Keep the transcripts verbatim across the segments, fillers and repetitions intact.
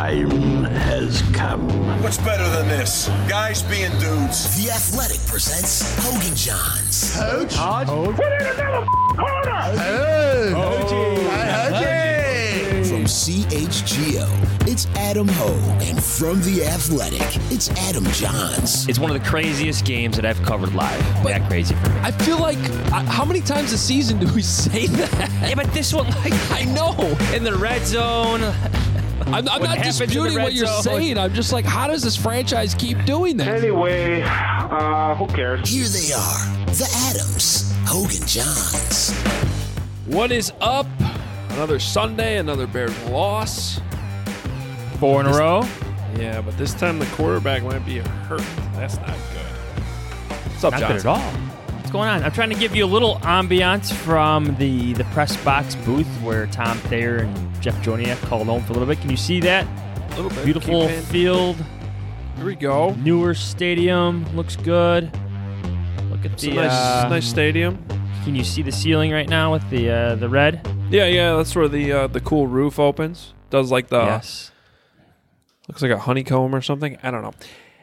time has come. What's better than this? Guys being dudes. The Athletic presents Hogan Johns. Coach? Hodge? Put in another corner! Hey! Hoagie! Hey, From C H G O, it's Adam Hogue. And from The Athletic, it's Adam Johns. It's one of the craziest games that I've covered live. But that crazy for me. I feel like, uh, how many times a season do we say that? Yeah, but this one, like, I know. In the red zone. I'm, I'm not disputing what you're zone. saying. I'm just like, how does this franchise keep doing that? Anyway, uh, who cares? Here they are, the Adams, Hogan Johns. What is up? Another Sunday, another Bears loss. Four in a row. Yeah, but this time the quarterback might be hurt. That's not good. What's up, Not Johnson? good at all. What's going on? I'm trying to give you a little ambiance from the, the press box booth where Tom Thayer and Jeff Joniak called home for a little bit. Can you see that? A little bit. Beautiful Keep in. field. Here we go. Newer stadium. Looks good. Look at It's the a nice, uh, nice stadium. Can you see the ceiling right now with the uh, the red? Yeah, yeah. That's where the uh, the cool roof opens. Does like the yes. looks like a honeycomb or something. I don't know.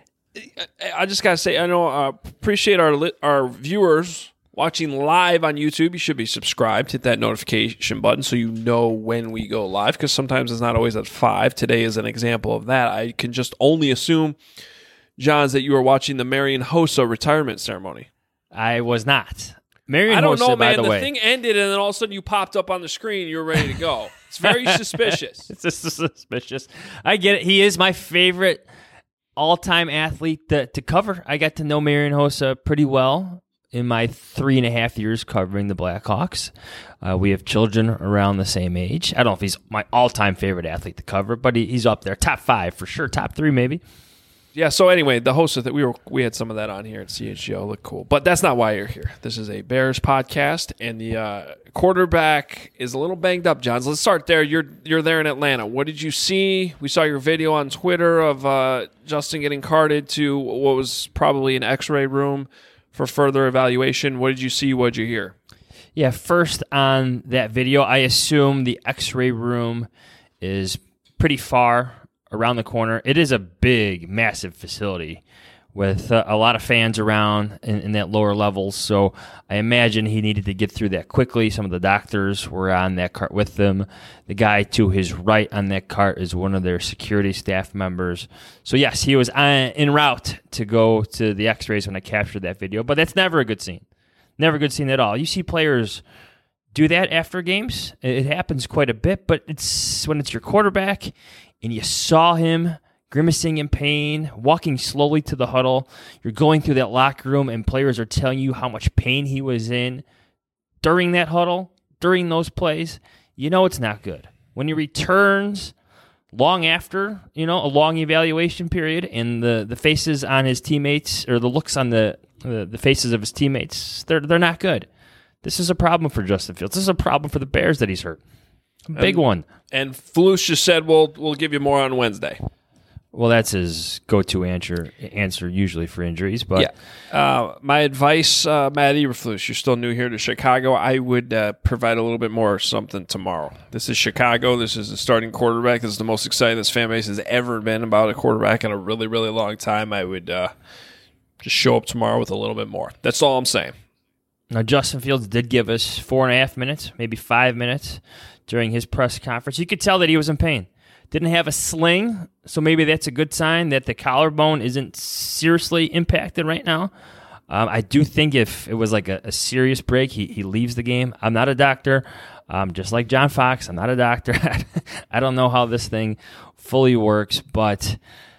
I just gotta say, I know. Uh, appreciate our li- our viewers watching live on YouTube. You should be subscribed. Hit that notification button so you know when we go live. Because sometimes it's not always at five. Today is an example of that. I can just only assume, Johns, that you are watching the Marion Hossa retirement ceremony. I was not. Marion I don't Hossa, know, by man. the, The way. thing ended, and then all of a sudden you popped up on the screen. And you were ready to go. It's very suspicious. It's just suspicious. I get it. He is my favorite all-time athlete to, to cover. I got to know Marion Hossa pretty well in my three and a half years covering the Blackhawks. Uh, we have children around the same age. I don't know if he's my all-time favorite athlete to cover, but he, he's up there. Top five for sure. Top three maybe. Yeah, so anyway, the host of that we were we had some of that on here at C H G O. Look cool. But that's not why you're here. This is a Bears podcast, and the uh, quarterback is a little banged up, Johns. Let's start there. You're you're there in Atlanta. What did you see? We saw your video on Twitter of uh, Justin getting carted to what was probably an X-ray room for further evaluation. What did you see? What did you hear? Yeah, first on that video, I assume the X-ray room is pretty far around the corner. It is a big, massive facility with uh, a lot of fans around in, in that lower levels. So I imagine he needed to get through that quickly. Some of the doctors were on that cart with them. The guy to his right on that cart is one of their security staff members. So yes, he was on, en route to go to the X-rays when I captured that video. But that's never a good scene. Never a good scene at all. You see players do that after games. It happens quite a bit, but it's when it's your quarterback and you saw him grimacing in pain, walking slowly to the huddle. You're going through that locker room, and players are telling you how much pain he was in during that huddle, during those plays. You know it's not good. When he returns long after, you know, a long evaluation period, and the, the faces on his teammates, or the looks on the, the, the faces of his teammates, they're they're not good. This is a problem for Justin Fields. This is a problem for the Bears that he's hurt. A big and, one. And Flus just said, "We'll we'll give you more on Wednesday." Well, that's his go-to answer answer usually for injuries. But yeah, uh, my advice, uh, Matt Eberflus, you're still new here to Chicago. I would uh, provide a little bit more something tomorrow. This is Chicago. This is the starting quarterback. This is the most excited this fan base has ever been about a quarterback in a really, really long time. I would uh, just show up tomorrow with a little bit more. That's all I'm saying. Now, Justin Fields did give us four and a half minutes, maybe five minutes during his press conference. You could tell that he was in pain. Didn't have a sling, so maybe that's a good sign that the collarbone isn't seriously impacted right now. Um, I do think if it was like a, a serious break, he, he leaves the game. I'm not a doctor. Um, just like John Fox, I'm not a doctor. I don't know how this thing fully works, but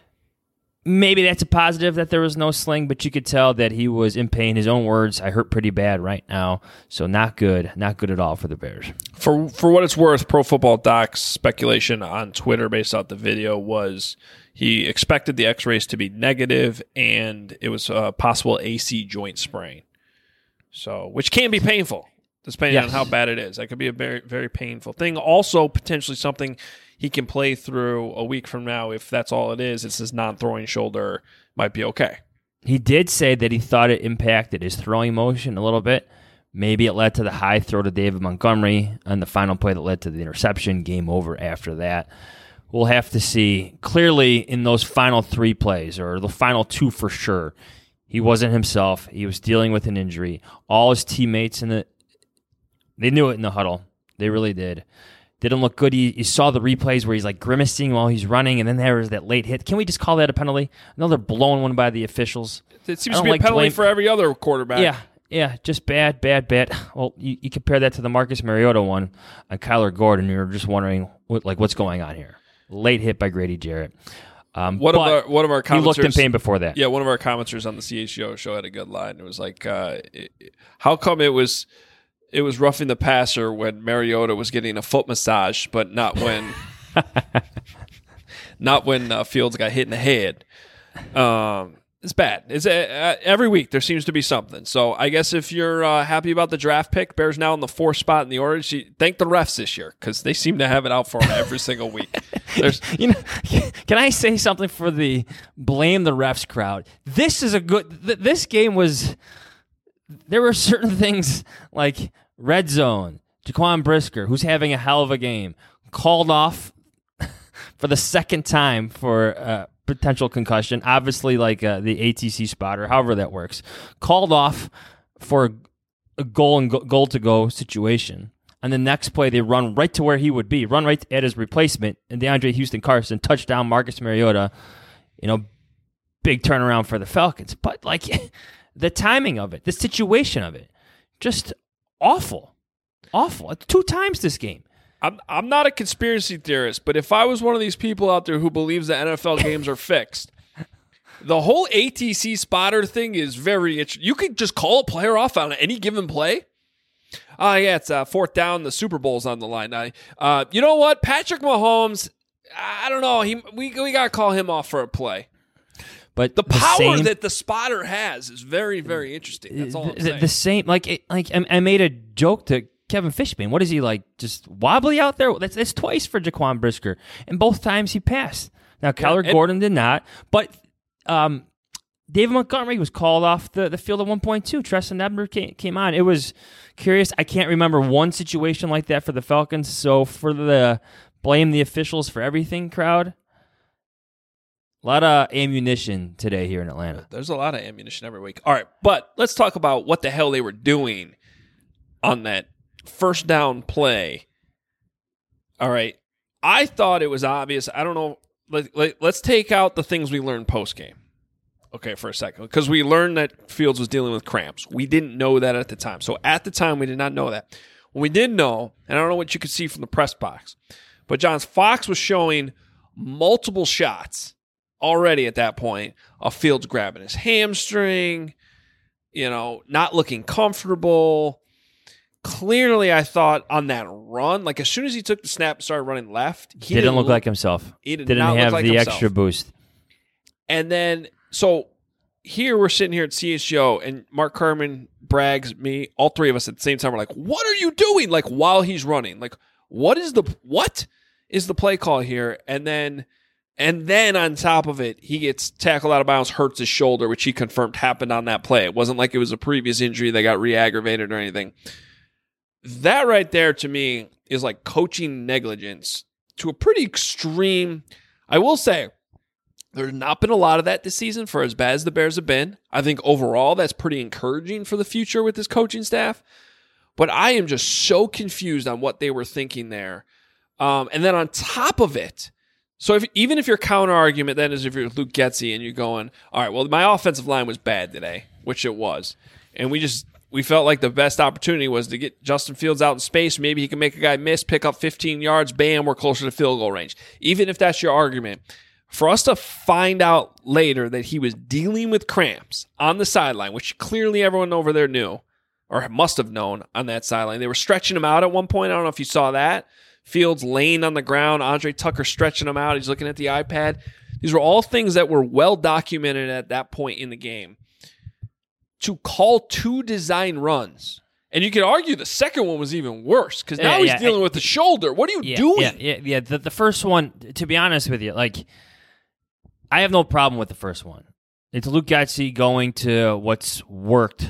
maybe that's a positive that there was no sling, but you could tell that he was in pain. His own words, I hurt pretty bad right now. So not good. Not good at all for the Bears. For for what it's worth, Pro Football Doc's speculation on Twitter based off the video was he expected the x-rays to be negative, and it was a possible A C joint sprain. So, which can be painful, depending yes. on how bad it is. That could be a very, very painful thing. Also, potentially something he can play through a week from now. If that's all it is, it's his non-throwing shoulder, might be okay. He did say that he thought it impacted his throwing motion a little bit. Maybe it led to the high throw to David Montgomery on the final play that led to the interception. Game over after that. we'll have to see. Clearly, in those final three plays, or the final two for sure, he wasn't himself. He was dealing with an injury. All his teammates in the they knew it in the huddle. They really did. Didn't look good. You, you saw the replays where he's like grimacing while he's running, and then there was that late hit. Can we just call that a penalty? I know they're blowing one by the officials. It seems to be like a penalty blame. for every other quarterback. Yeah, yeah, just bad, bad, bad. Well, you, you compare that to the Marcus Mariota one on Kyler Gordon, you're just wondering what, like what's going on here. Late hit by Grady Jarrett. Um, one of our one of our commenters, he looked in pain before that. Yeah, one of our commenters on the C H G O show had a good line. It was like, uh, it, "How come it was it was roughing the passer when Mariota was getting a foot massage, but not when not when uh, Fields got hit in the head?" Um, it's bad. It's uh, every week there seems to be something. So I guess if you're uh, happy about the draft pick, Bears now in the fourth spot in the order. Thank the refs this year because they seem to have it out for them every single week. There's, you know, can I say something for the blame the refs crowd? This is a good. Th- this game was. There were certain things like red zone. Jaquan Brisker, who's having a hell of a game, called off for the second time for uh, potential concussion. Obviously, like uh, the A T C spotter, however that works, called off for a goal and go- goal to go situation. And the next play, they run right to where he would be, run right at his replacement, and DeAndre Houston Carson, touchdown, Marcus Mariota, you know, big turnaround for the Falcons. But, like, the timing of it, the situation of it, just awful. Awful. Two times this game. I'm I'm not a conspiracy theorist, but if I was one of these people out there who believes that N F L games are fixed, the whole A T C spotter thing is very interesting. You could just call a player off on any given play. Oh, uh, yeah, it's uh, fourth down. The Super Bowl's on the line. I, uh, you know what? Patrick Mahomes, I don't know. He We, we got to call him off for a play. But the, the power same, that the spotter has is very, very interesting. That's all I'm the, saying. The same, like, it, like I made a joke to Kevin Fishman. What is he, like, just wobbly out there? That's, that's twice for Jaquan Brisker. And both times he passed. Now, Kyler yeah, Gordon did not. But um, David Montgomery was called off the, the field at one point two. Treston Ebner came, came on. It was curious. I can't remember one situation like that for the Falcons. So for the blame the officials for everything crowd, a lot of ammunition today here in Atlanta. There's a lot of ammunition every week. All right, but let's talk about what the hell they were doing on that first down play. All right, I thought it was obvious. I don't know. Let, let, let's take out the things we learned post-game. Okay, for a second, because we learned that Fields was dealing with cramps. We didn't know that at the time. So at the time, we did not know that. What we did know, and I don't know what you could see from the press box, but Johns Fox was showing multiple shots already at that point of Fields grabbing his hamstring, you know, not looking comfortable. Clearly, I thought on that run, like as soon as he took the snap and started running left, he didn't, didn't look, look like himself. He did didn't not have look like the himself. extra boost. And then, so here we're sitting here at C H G O, and Mark Carman, Braggs, me, all three of us at the same time are like, "What are you doing?" Like while he's running, like what is the what is the play call here? And then, and then on top of it, he gets tackled out of bounds, hurts his shoulder, which he confirmed happened on that play. It wasn't like it was a previous injury that got re-aggravated or anything. That right there to me is like coaching negligence to a pretty extreme. I will say there's not been a lot of that this season for as bad as the Bears have been. I think overall that's pretty encouraging for the future with this coaching staff. But I am just so confused on what they were thinking there. Um, and then on top of it, so if, even if your counter argument then is if you're Luke Getsy and you're going, all right, well, my offensive line was bad today, which it was. And we just... We felt like the best opportunity was to get Justin Fields out in space. Maybe he can make a guy miss, pick up fifteen yards, bam, we're closer to field goal range. Even if that's your argument, for us to find out later that he was dealing with cramps on the sideline, which clearly everyone over there knew or must have known on that sideline. They were stretching him out at one point. I don't know if you saw that. Fields laying on the ground, Andre Tucker stretching him out. He's looking at the iPad. These were all things that were well documented at that point in the game. To call two design runs. And you could argue the second one was even worse because now yeah, he's yeah, dealing I, with the shoulder. What are you yeah, doing? Yeah, yeah, yeah. The, the first one, to be honest with you, like, I have no problem with the first one. It's Luke Getsy going to what's worked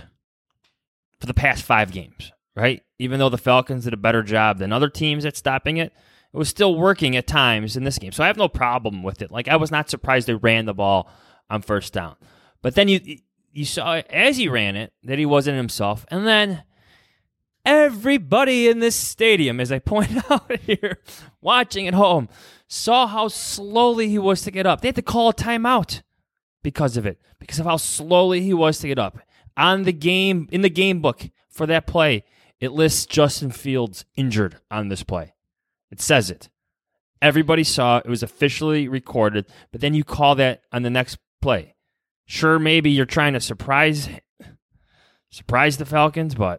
for the past five games, right? Even though the Falcons did a better job than other teams at stopping it, It was still working at times in this game. So I have no problem with it. Like, I was not surprised they ran the ball on first down. But then you you saw as he ran it that he wasn't himself. And then everybody in this stadium, as I point out here, watching at home, saw how slowly he was to get up. They had to call a timeout because of it, because of how slowly he was to get up. On the game, in the game book for that play, it lists Justin Fields injured on this play. It says it. Everybody saw it. It was officially recorded, but then you call that on the next play. Sure, maybe you're trying to surprise surprise the Falcons, but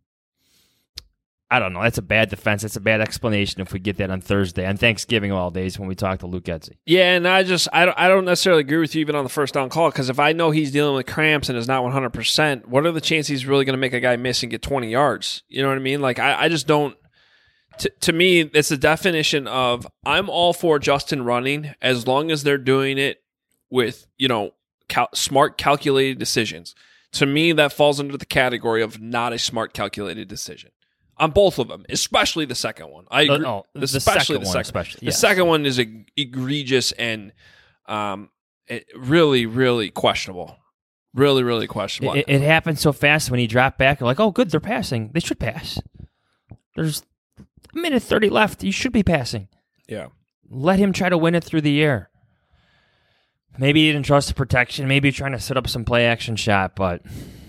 I don't know. That's a bad defense. That's a bad explanation if we get that on Thursday, on Thanksgiving of all days when we talk to Luke Getsy. Yeah, and I just I don't, I don't necessarily agree with you even on the first down call, because if I know he's dealing with cramps and is not one hundred percent, what are the chances he's really going to make a guy miss and get twenty yards? You know what I mean? Like, I, I just don't. T- to me, it's the definition of I'm all for Justin running as long as they're doing it with, you know, cal- smart, calculated decisions. To me, that falls under the category of not a smart, calculated decision. On both of them, especially the second one. I agree. Oh, the especially second the one, second. especially, The yes. second one is eg- egregious and um, it really, really questionable. Really, really questionable. It, it happened so fast when he dropped back. You're like, oh, good, they're passing. They should pass. There's a minute thirty left. You should be passing. Yeah. Let him try to win it through the air. Maybe he didn't trust the protection. Maybe you're trying to set up some play action shot, but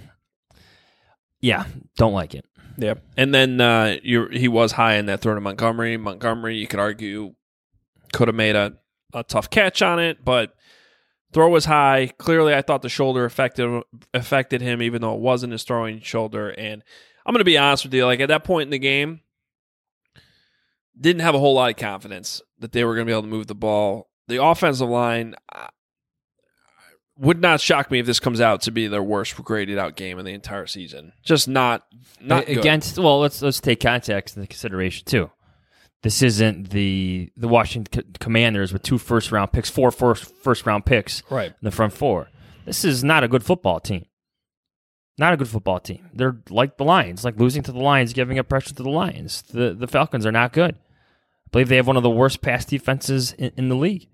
yeah, don't like it. Yeah, and then uh, you he was high in that throw to Montgomery. Montgomery, you could argue, could have made a, a tough catch on it, but throw was high. Clearly, I thought the shoulder affected affected him, even though it wasn't his throwing shoulder. And I'm going to be honest with you, like at that point in the game, didn't have a whole lot of confidence that they were going to be able to move the ball. The offensive line uh, would not shock me if this comes out to be their worst graded out game in the entire season. Just not not good. Against. Well, let's let's take context into consideration too. This isn't the the Washington Commanders with two first round picks, four first first round picks, right in the front four. This is not a good football team. Not a good football team. They're like the Lions, like losing to the Lions, giving up pressure to the Lions. The the Falcons are not good. I believe they have one of the worst pass defenses in, in the league.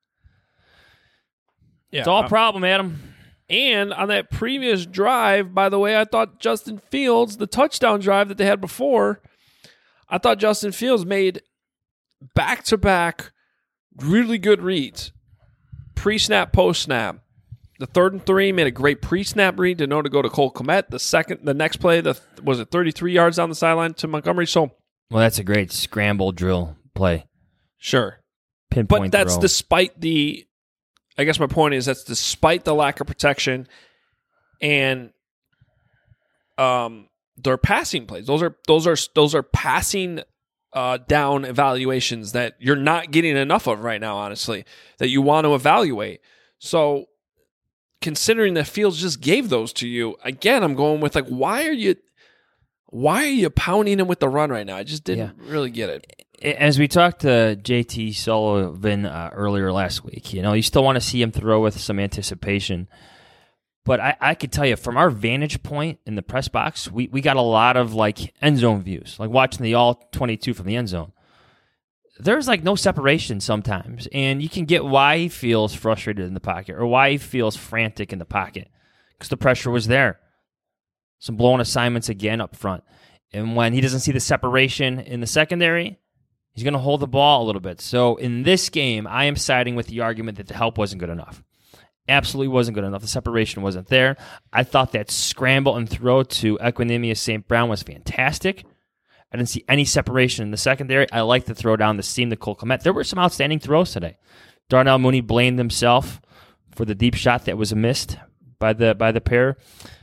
Yeah, it's all a uh, problem, Adam. And on that previous drive, by the way, I thought Justin Fields, the touchdown drive that they had before, I thought Justin Fields made back-to-back really good reads. Pre-snap, post-snap. The third and three made a great pre-snap read to know to go to Cole Kmet. The second, the next play, the was it thirty-three yards down the sideline to Montgomery? So, well, that's a great scramble drill play. Sure. Pinpoint But that's throw. despite the... I guess my point is that's despite the lack of protection and um, their passing plays. Those are those are those are passing uh, down evaluations that you're not getting enough of right now. Honestly, that you want to evaluate. So, considering that Fields just gave those to you again, I'm going with like, why are you, why are you pounding him with the run right now? I just didn't Yeah. really get it. As we talked to J T Sullivan uh, earlier last week, you know, you still want to see him throw with some anticipation. But I, I could tell you, from our vantage point in the press box, we, we got a lot of like end zone views, like watching the all twenty-two from the end zone. There's like no separation sometimes, and you can get why he feels frustrated in the pocket or why he feels frantic in the pocket because the pressure was there. Some blown assignments again up front. And when he doesn't see the separation in the secondary, he's going to hold the ball a little bit. So in this game, I am siding with the argument that the help wasn't good enough. Absolutely wasn't good enough. The separation wasn't there. I thought that scramble and throw to Equanimeous Saint Brown was fantastic. I didn't see any separation in the secondary. I like the throw down the seam to Cole Kmet. There were some outstanding throws today. Darnell Mooney blamed himself for the deep shot that was missed by the by the pair.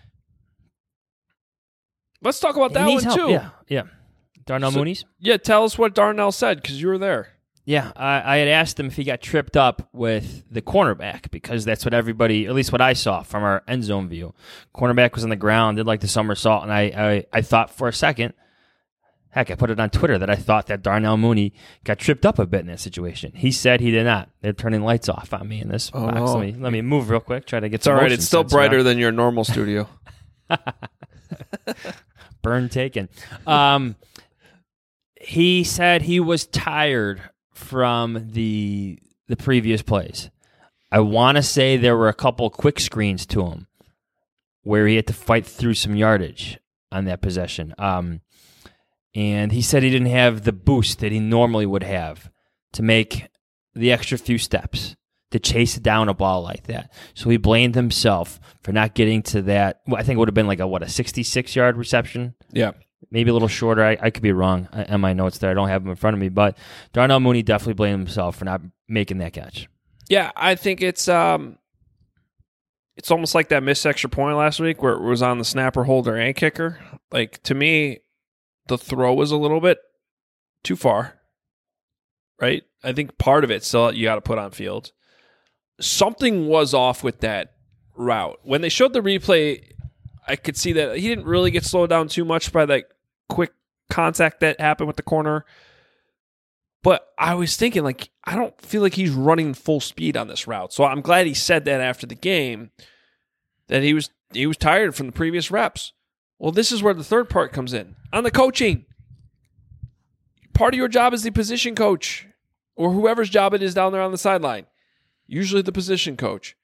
Let's talk about that He one needs help. too. Yeah, yeah. Darnell So- Mooney's? Yeah, tell us what Darnell said because you were there. Yeah, I, I had asked him if he got tripped up with the cornerback because that's what everybody, at least what I saw from our end zone view. Cornerback was on the ground, did like the somersault, and I, I, I thought for a second, heck, I put it on Twitter that I thought that Darnell Mooney got tripped up a bit in that situation. He said he did not. They're turning lights off on me in this Oh, box. no. Let me let me move real quick, try to get It's some all right. motion It's still sensor brighter on. than your normal studio. Burn taken. Um, He said he was tired from the the previous plays. I want to say there were a couple quick screens to him where he had to fight through some yardage on that possession. Um, and he said he didn't have the boost that he normally would have to make the extra few steps to chase down a ball like that. So he blamed himself for not getting to that. Well, I think it would have been like a, what, a sixty-six yard reception? Yeah. Maybe a little shorter. I, I could be wrong on my notes there. I don't have them in front of me. But Darnell Mooney definitely blamed himself for not making that catch. Yeah, I think it's um, it's almost like that missed extra point last week where it was on the snapper, holder, and kicker. Like, to me, the throw was a little bit too far, right? I think part of it still you got to put on field. Something was off with that route. When they showed the replay, I could see that he didn't really get slowed down too much by that quick contact that happened with the corner. But I was thinking, like, I don't feel like he's running full speed on this route. So I'm glad he said that after the game, that he was he was tired from the previous reps. Well, this is where the third part comes in. On the coaching. Part of your job is the position coach or whoever's job it is down there on the sideline. Usually the position coach.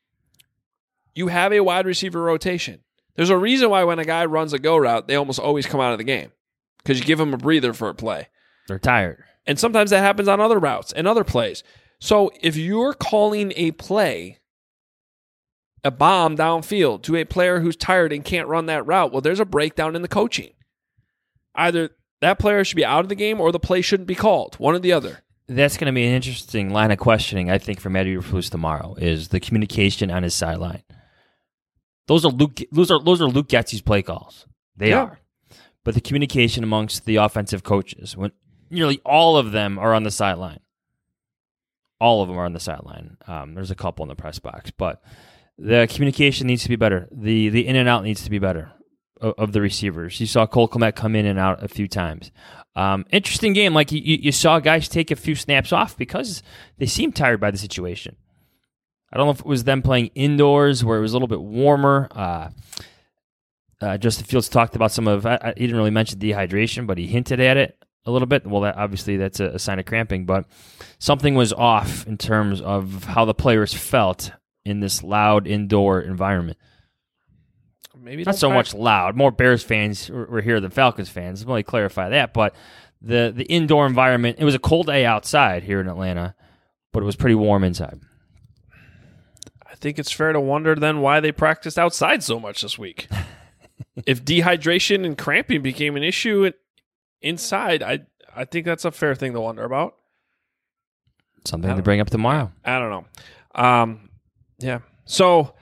You have a wide receiver rotation. There's a reason why when a guy runs a go route, they almost always come out of the game because you give them a breather for a play. They're tired. And sometimes that happens on other routes and other plays. So if you're calling a play, a bomb downfield to a player who's tired and can't run that route, well, there's a breakdown in the coaching. Either that player should be out of the game or the play shouldn't be called. One or the other. That's going to be an interesting line of questioning, I think, for Matty Eberflus tomorrow, is the communication on his sideline. Those are Luke. Those are those are Luke Getsy's play calls. They Yeah. are, but the communication amongst the offensive coaches, when nearly all of them are on the sideline, all of them are on the sideline. Um, there's a couple in the press box, but the communication needs to be better. the The in and out needs to be better of, of the receivers. You saw Cole Kmet come in and out a few times. Um, interesting game. Like you, you saw guys take a few snaps off because they seemed tired by the situation. I don't know if it was them playing indoors where it was a little bit warmer. Uh, uh, Justin Fields talked about some of, I, I, he didn't really mention dehydration, but he hinted at it a little bit. Well, that, obviously that's a, a sign of cramping, but something was off in terms of how the players felt in this loud indoor environment. Maybe Not so much loud. More Bears fans were here than Falcons fans. Let me clarify that. But the, the indoor environment, it was a cold day outside here in Atlanta, but it was pretty warm inside. I think it's fair to wonder then why they practiced outside so much this week. If dehydration and cramping became an issue inside, I I think that's a fair thing to wonder about. Something to bring up tomorrow. I don't know. Um, yeah. So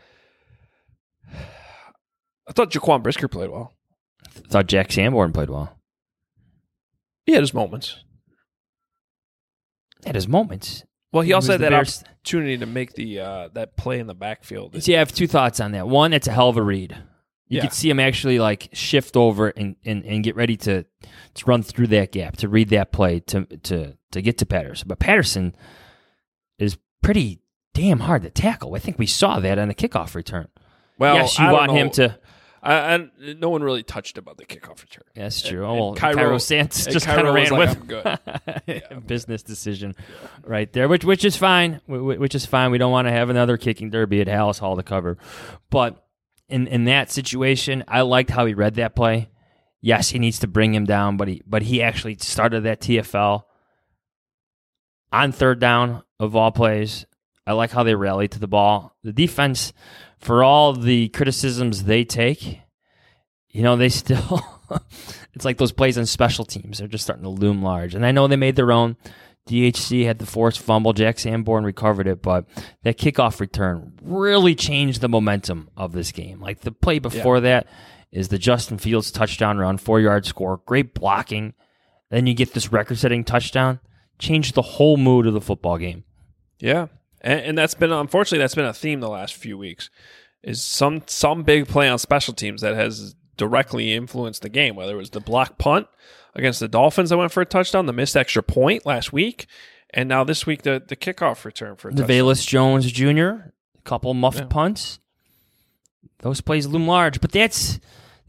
I thought Jaquan Brisker played well. I thought Jack Sanborn played well. He had his moments. At his moments. Well, he, He also was had the that Bears- opportunity to make the uh, that play in the backfield. See, I have two thoughts on that. One, it's a hell of a read. You Yeah. could see him actually like shift over and, and, and get ready to, to run through that gap, to read that play, to to to get to Patterson. But Patterson is pretty damn hard to tackle. I think we saw that on the kickoff return. Well, yes, you I don't want him know. to. I, I, no one really touched about the kickoff return. That's true. And- oh, well, and Cairo- Cairo Santos and just Cairo kind of was ran like, with "I'm good." a business decision right there, which which is fine. wh- wh- Which is fine. We don't want to have another kicking derby at Hallis Hall to cover. But in in that situation, I liked how he read that play. Yes, he needs to bring him down, but he but he actually started that T F L on third down of all plays. I like how they rallied to the ball. The defense, for all the criticisms they take, you know, they still, it's like those plays on special teams. They're just starting to loom large. And I know they made their own. D H C had the forced fumble. Jack Sanborn recovered it, but that kickoff return really changed the momentum of this game. Like the play before yeah. that is the Justin Fields touchdown run, four-yard score, great blocking. Then you get this record-setting touchdown. Changed the whole mood of the football game. Yeah. And, and that's been, unfortunately, that's been a theme the last few weeks, is some some big play on special teams that has directly influenced the game, whether it was the block punt against the Dolphins that went for a touchdown, the missed extra point last week, and now this week the, the kickoff return for a the touchdown. Velus Jones Junior, a couple muffed Yeah. punts. Those plays loom large, but that's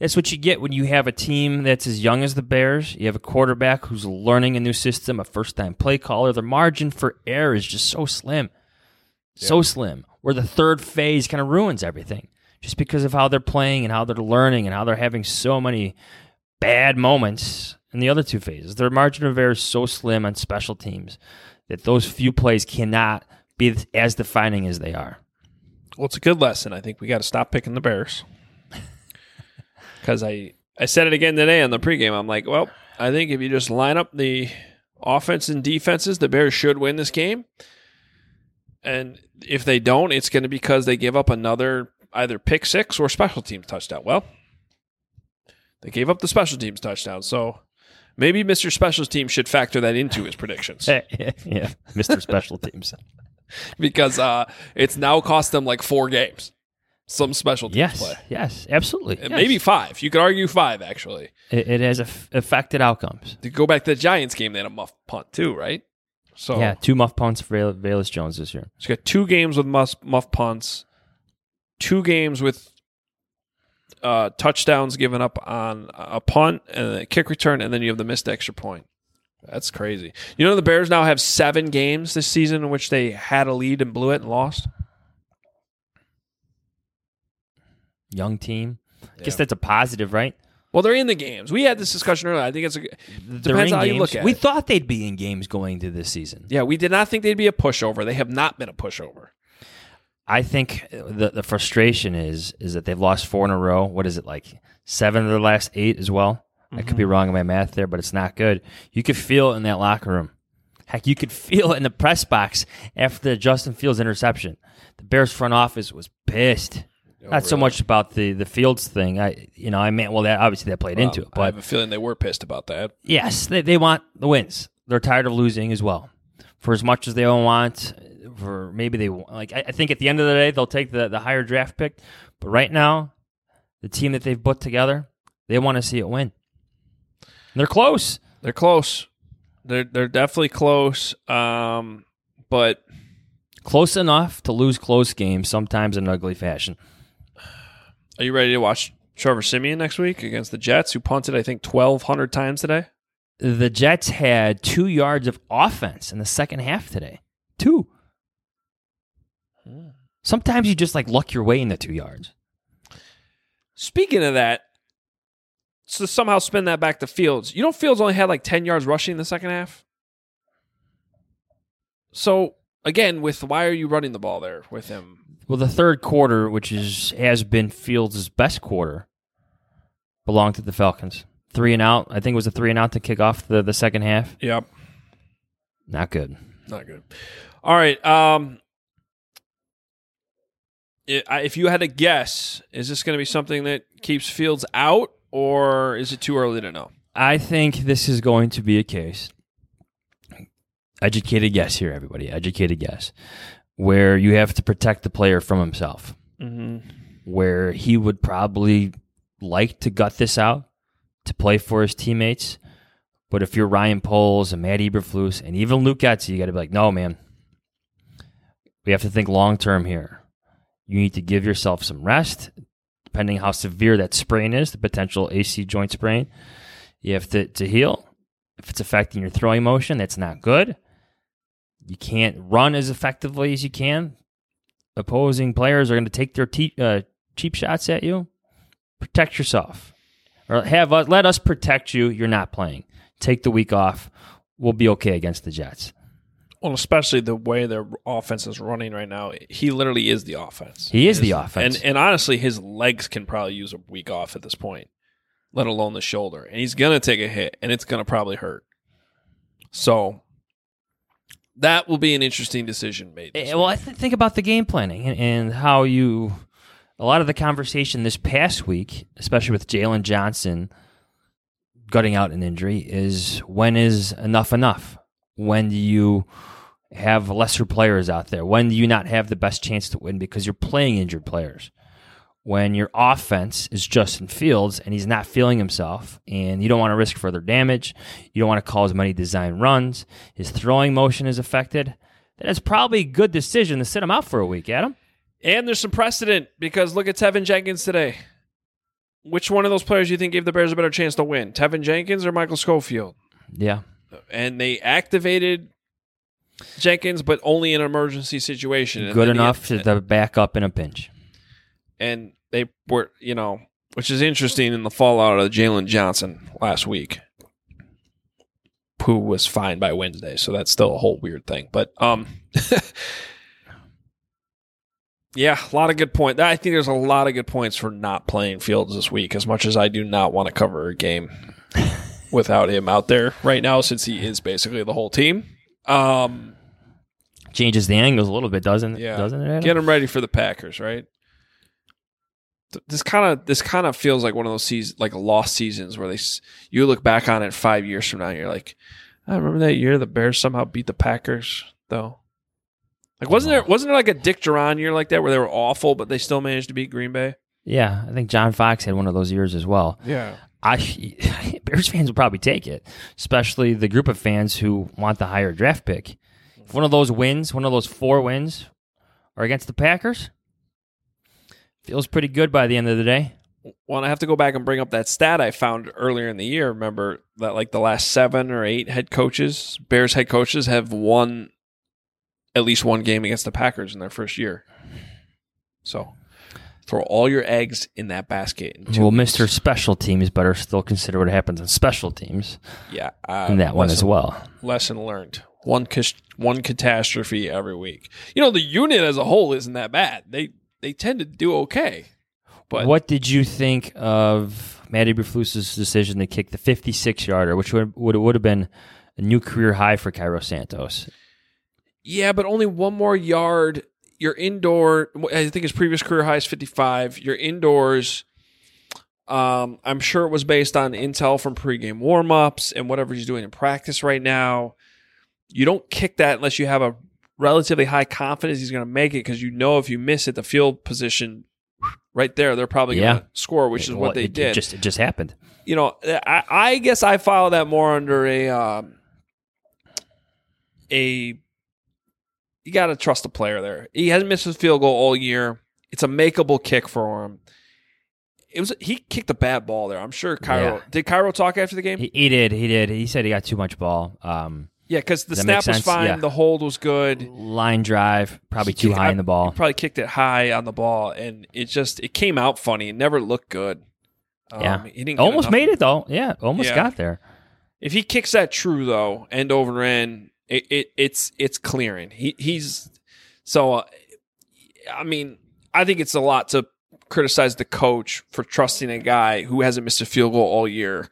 That's what you get when you have a team that's as young as the Bears. You have a quarterback who's learning a new system, a first-time play caller. The margin for error is just so slim. So yeah. slim. Where the third phase kind of ruins everything. Just because of how they're playing and how they're learning and how they're having so many bad moments in the other two phases. Their margin of error is so slim on special teams that those few plays cannot be as defining as they are. Well, it's a good lesson. I think we got to stop picking the Bears. Because I, I said it again today on the pregame. I'm like, well, I think if you just line up the offense and defenses, the Bears should win this game. And if they don't, it's going to be because they give up another either pick six or special teams touchdown. Well, they gave up the special teams touchdown. So maybe Mister Special Teams should factor that into his predictions. Yeah, Mister Special Teams. Because uh, it's now cost them like four games. Some special teams yes, play. Yes, absolutely. Yes. Maybe five. You could argue five, actually. It, it has af- affected outcomes. To go back to the Giants game, they had a muff punt too, right? So yeah, two muff punts for Val- Valus Jones this year. So you got two games with muff, muff punts, two games with uh, touchdowns given up on a punt and a kick return, and then you have the missed extra point. That's crazy. You know the Bears now have seven games this season in which they had a lead and blew it and lost? Young team. I yeah. guess that's a positive, right? Well, they're in the games. We had this discussion earlier. I think it's a depends on how you look at we it. We thought they'd be in games going into this season. Yeah, we did not think they'd be a pushover. They have not been a pushover. I think the the frustration is is that they've lost four in a row. What is it, like seven of their last eight as well? Mm-hmm. I could be wrong in my math there, but it's not good. You could feel it in that locker room. Heck, you could feel it in the press box after the Justin Fields interception. The Bears front office was pissed. Oh, Not really? So much about the, the Fields thing. I you know I mean well that obviously that played well, into it. But I have a feeling they were pissed about that. Yes, they they want the wins. They're tired of losing as well. For as much as they don't want, for maybe they like. I, I think at the end of the day they'll take the, the higher draft pick. But right now, the team that they've put together, they want to see it win. And they're close. They're close. They're they're definitely close. Um, but close enough to lose close games sometimes in an ugly fashion. Are you ready to watch Trevor Siemian next week against the Jets, who punted, I think, twelve hundred times today? The Jets had two yards of offense in the second half today. Two. Hmm. Sometimes you just like luck your way into two yards. Speaking of that, so somehow spin that back to Fields. You know Fields only had like ten yards rushing in the second half? So, again, with why are you running the ball there with him? Well, the third quarter, which is has been Fields' best quarter, belonged to the Falcons. Three and out. I think it was a three and out to kick off the, the second half. Yep. Not good. Not good. All right. Um, if you had to guess, is this going to be something that keeps Fields out, or is it too early to know? I think this is going to be a case. Educated guess here, everybody. Educated guess. Where you have to protect the player from himself. Mm-hmm. Where he would probably like to gut this out to play for his teammates. But if you're Ryan Poles and Matt Eberflus and even Luke Getsy, you got to be like, no, man. We have to think long-term here. You need to give yourself some rest, depending how severe that sprain is, the potential A C joint sprain. You have to, to heal. If it's affecting your throwing motion, that's not good. You can't run as effectively as you can. Opposing players are going to take their te- uh, cheap shots at you. Protect yourself. Or have us, let us protect you. You're not playing. Take the week off. We'll be okay against the Jets. Well, especially the way their offense is running right now. He literally is the offense. He is the offense. And, and honestly, his legs can probably use a week off at this point, let alone the shoulder. And he's going to take a hit, and it's going to probably hurt. So that will be an interesting decision made. Well, I th- think about the game planning and, and how you – a lot of the conversation this past week, especially with Jalen Johnson gutting out an injury, is when is enough enough? When do you have lesser players out there? When do you not have the best chance to win because you're playing injured players? When your offense is Justin Fields and he's not feeling himself and you don't want to risk further damage, you don't want to call as many design runs, his throwing motion is affected, then it's probably a good decision to sit him out for a week, Adam. And there's some precedent because look at Tevin Jenkins today. which one of those players do you think gave the Bears a better chance to win? Tevin Jenkins or Michael Schofield? Yeah. And they activated Jenkins, but only in an emergency situation. And Good then enough he, to, to back up in a pinch. And they were, you know, which is interesting in the fallout of Jalen Johnson last week, who was fine by Wednesday. So that's still a whole weird thing. But, um, yeah, a lot of good points. I think there's a lot of good points for not playing Fields this week, as much as I do not want to cover a game without him out there right now, since he is basically the whole team. Um, Changes the angles a little bit, doesn't it? Yeah. Doesn't it? Adam? Get him ready for the Packers, right? This kind of this kind of feels like one of those seasons, like lost seasons, where they you look back on it five years from now, and you're like, I remember that year the Bears somehow beat the Packers, though. Like, wasn't there wasn't there like a Dick Duran year like that where they were awful, but they still managed to beat Green Bay? Yeah, I think John Fox had one of those years as well. Yeah. I Bears fans will probably take it, especially the group of fans who want the higher draft pick. If one of those wins, one of those four wins, are against the Packers, feels pretty good by the end of the day. Well, I have to go back and bring up that stat I found earlier in the year. Remember that like the last seven or eight head coaches, Bears head coaches, have won at least one game against the Packers in their first year. So throw all your eggs in that basket. In Well, weeks. Mister Special Teams better still consider what happens on special teams Yeah, uh, in that one lesson, as well. Lesson learned. One cas- one catastrophe every week. You know, the unit as a whole isn't that bad. They they tend to do okay. But What did you think of Matty Eberflus's decision to kick the fifty-six yarder, which would would would have been a new career high for Cairo Santos? Yeah, but only one more yard. You're indoor. I think his previous career high is fifty-five. You're indoors. Um, I'm sure it was based on intel from pregame warmups and whatever he's doing in practice right now. You don't kick that unless you have a relatively high confidence he's going to make it, because you know if you miss it, the field position right there, they're probably going to Yeah. score, which is Well, what they it, did. It just, it just happened. You know, I, I guess I follow that more under a um, a. You got to trust the player there. He hasn't missed his field goal all year. It's a makeable kick for him. It was he kicked a bad ball there. I'm sure Cairo Yeah. did. Cairo talk after the game. He, he did. He did. He said he got too much ball. Um, yeah, because the Does that snap make was sense? fine. Yeah. The hold was good. line drive, probably too Kick- high I- in the ball. He probably kicked it high on the ball, and it just it came out funny. It never looked good. Um, Yeah, he didn't get almost enough- made it though. Yeah, almost Yeah. got there. If he kicks that true though, end over end, it, it it's it's clearing. He he's so. Uh, I mean, I think it's a lot to criticize the coach for trusting a guy who hasn't missed a field goal all year.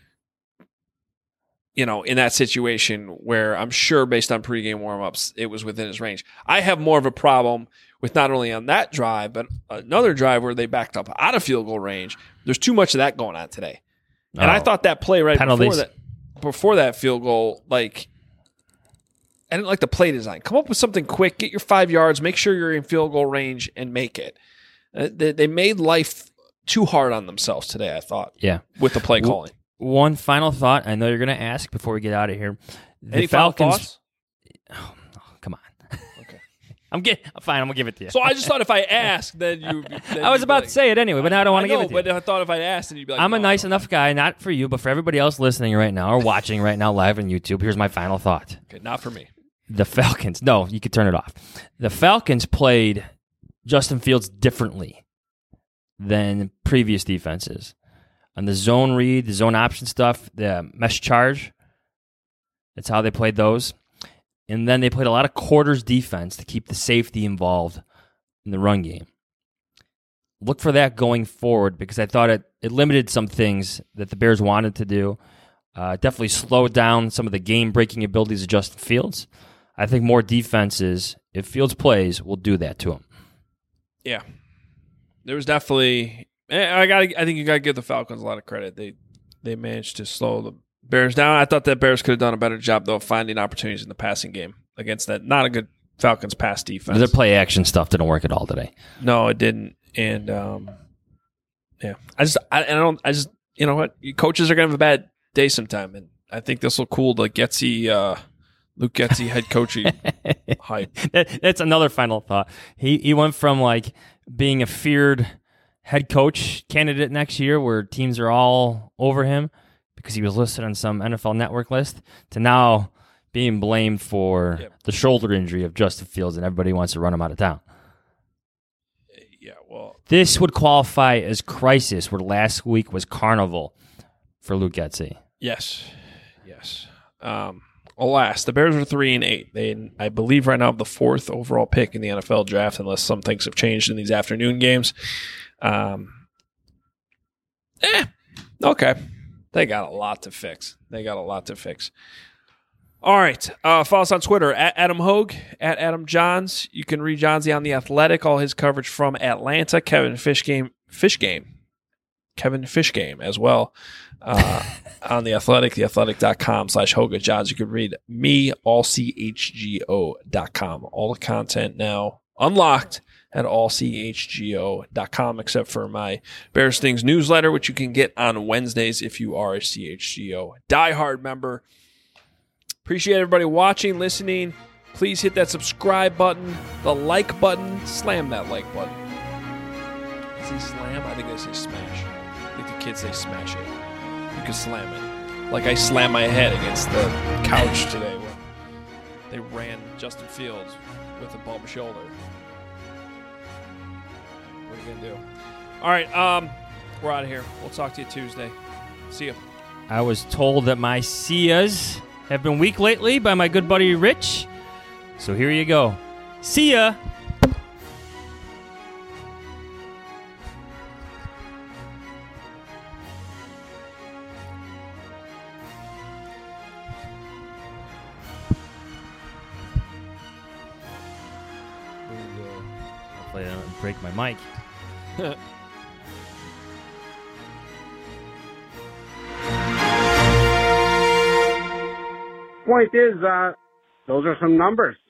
You know, in that situation where I'm sure based on pregame warmups, it was within his range. I have more of a problem with not only on that drive, but another drive where they backed up out of field goal range. There's too much of that going on today. And I Oh. thought that play right Penalties. before that before that field goal, like, I didn't like the play design. Come up with something quick, get your five yards, make sure you're in field goal range, and make it. Uh, they, they made life too hard on themselves today, I thought, Yeah. with the play calling. One final thought. I know you're going to ask before we get out of here. The Any final Falcons. thoughts? Come on. Okay. I'm getting fine. I'm gonna give it to you. So I just thought if I asked, then you. Then I was you'd be about like, to say it anyway, but now I don't want to know, give it to you. But I thought if I asked, then you'd be like, I'm a no, nice no. enough guy, not for you, but for everybody else listening right now or watching right now live on YouTube. Here's my final thought. Okay, not for me. The Falcons. No, you could turn it off. The Falcons played Justin Fields differently than previous defenses. On the zone read, the zone option stuff, the mesh charge, that's how they played those. And then they played a lot of quarters defense to keep the safety involved in the run game. Look for that going forward because I thought it, it limited some things that the Bears wanted to do. Uh, definitely slowed down some of the game-breaking abilities of Justin Fields. I think more defenses, if Fields plays, will do that to him. Yeah, there was definitely. I got. I think you got to give the Falcons a lot of credit. They they managed to slow the Bears down. I thought that Bears could have done a better job though of finding opportunities in the passing game against that not a good Falcons pass defense. Their play action stuff didn't work at all today. No, it didn't. And um, yeah, I just I, I don't. I just you know what, coaches are gonna have a bad day sometime, and I think this will cool the Getsy, uh, Luke Getsy head coaching hype. That, that's another final thought. He he went from like being a feared head coach candidate next year where teams are all over him because he was listed on some N F L Network list to now being blamed for yep. the shoulder injury of Justin Fields and everybody wants to run him out of town. Yeah, well, this would qualify as crisis where last week was carnival for Luke Getsy. Yes, yes. Um, alas, the Bears are three and eight. They, I believe, right now have the fourth overall pick in the N F L draft, unless some things have changed in these afternoon games. Um, eh, okay. They got a lot to fix. They got a lot to fix. All right. Uh, follow us on Twitter, at Adam Hogue, at Adam Johns. You can read Johnsy on The Athletic, all his coverage from Atlanta. Kevin Fishgame, Fishgame, Kevin Fishgame as well uh, on The Athletic, theathletic.com slash Hoga Johns. You can read me, all c h g o dot com. All the content now unlocked at all c h g o dot com, except for my Bears Things newsletter, which you can get on Wednesdays if you are a C H G O diehard member. Appreciate everybody watching, listening. Please hit that subscribe button, the like button. Slam that like button. Is he slam? I think they say smash. I think the kids say smash it. You can slam it. Like I slammed my head against the couch today when they ran Justin Fields with a bum shoulder. What are you going to do? All right, um, we're out of here. We'll talk to you Tuesday. See ya. I was told that my Sias have been weak lately by my good buddy Rich. So here you go. See ya. Hopefully I don't break my mic. Point is, uh, those are some numbers.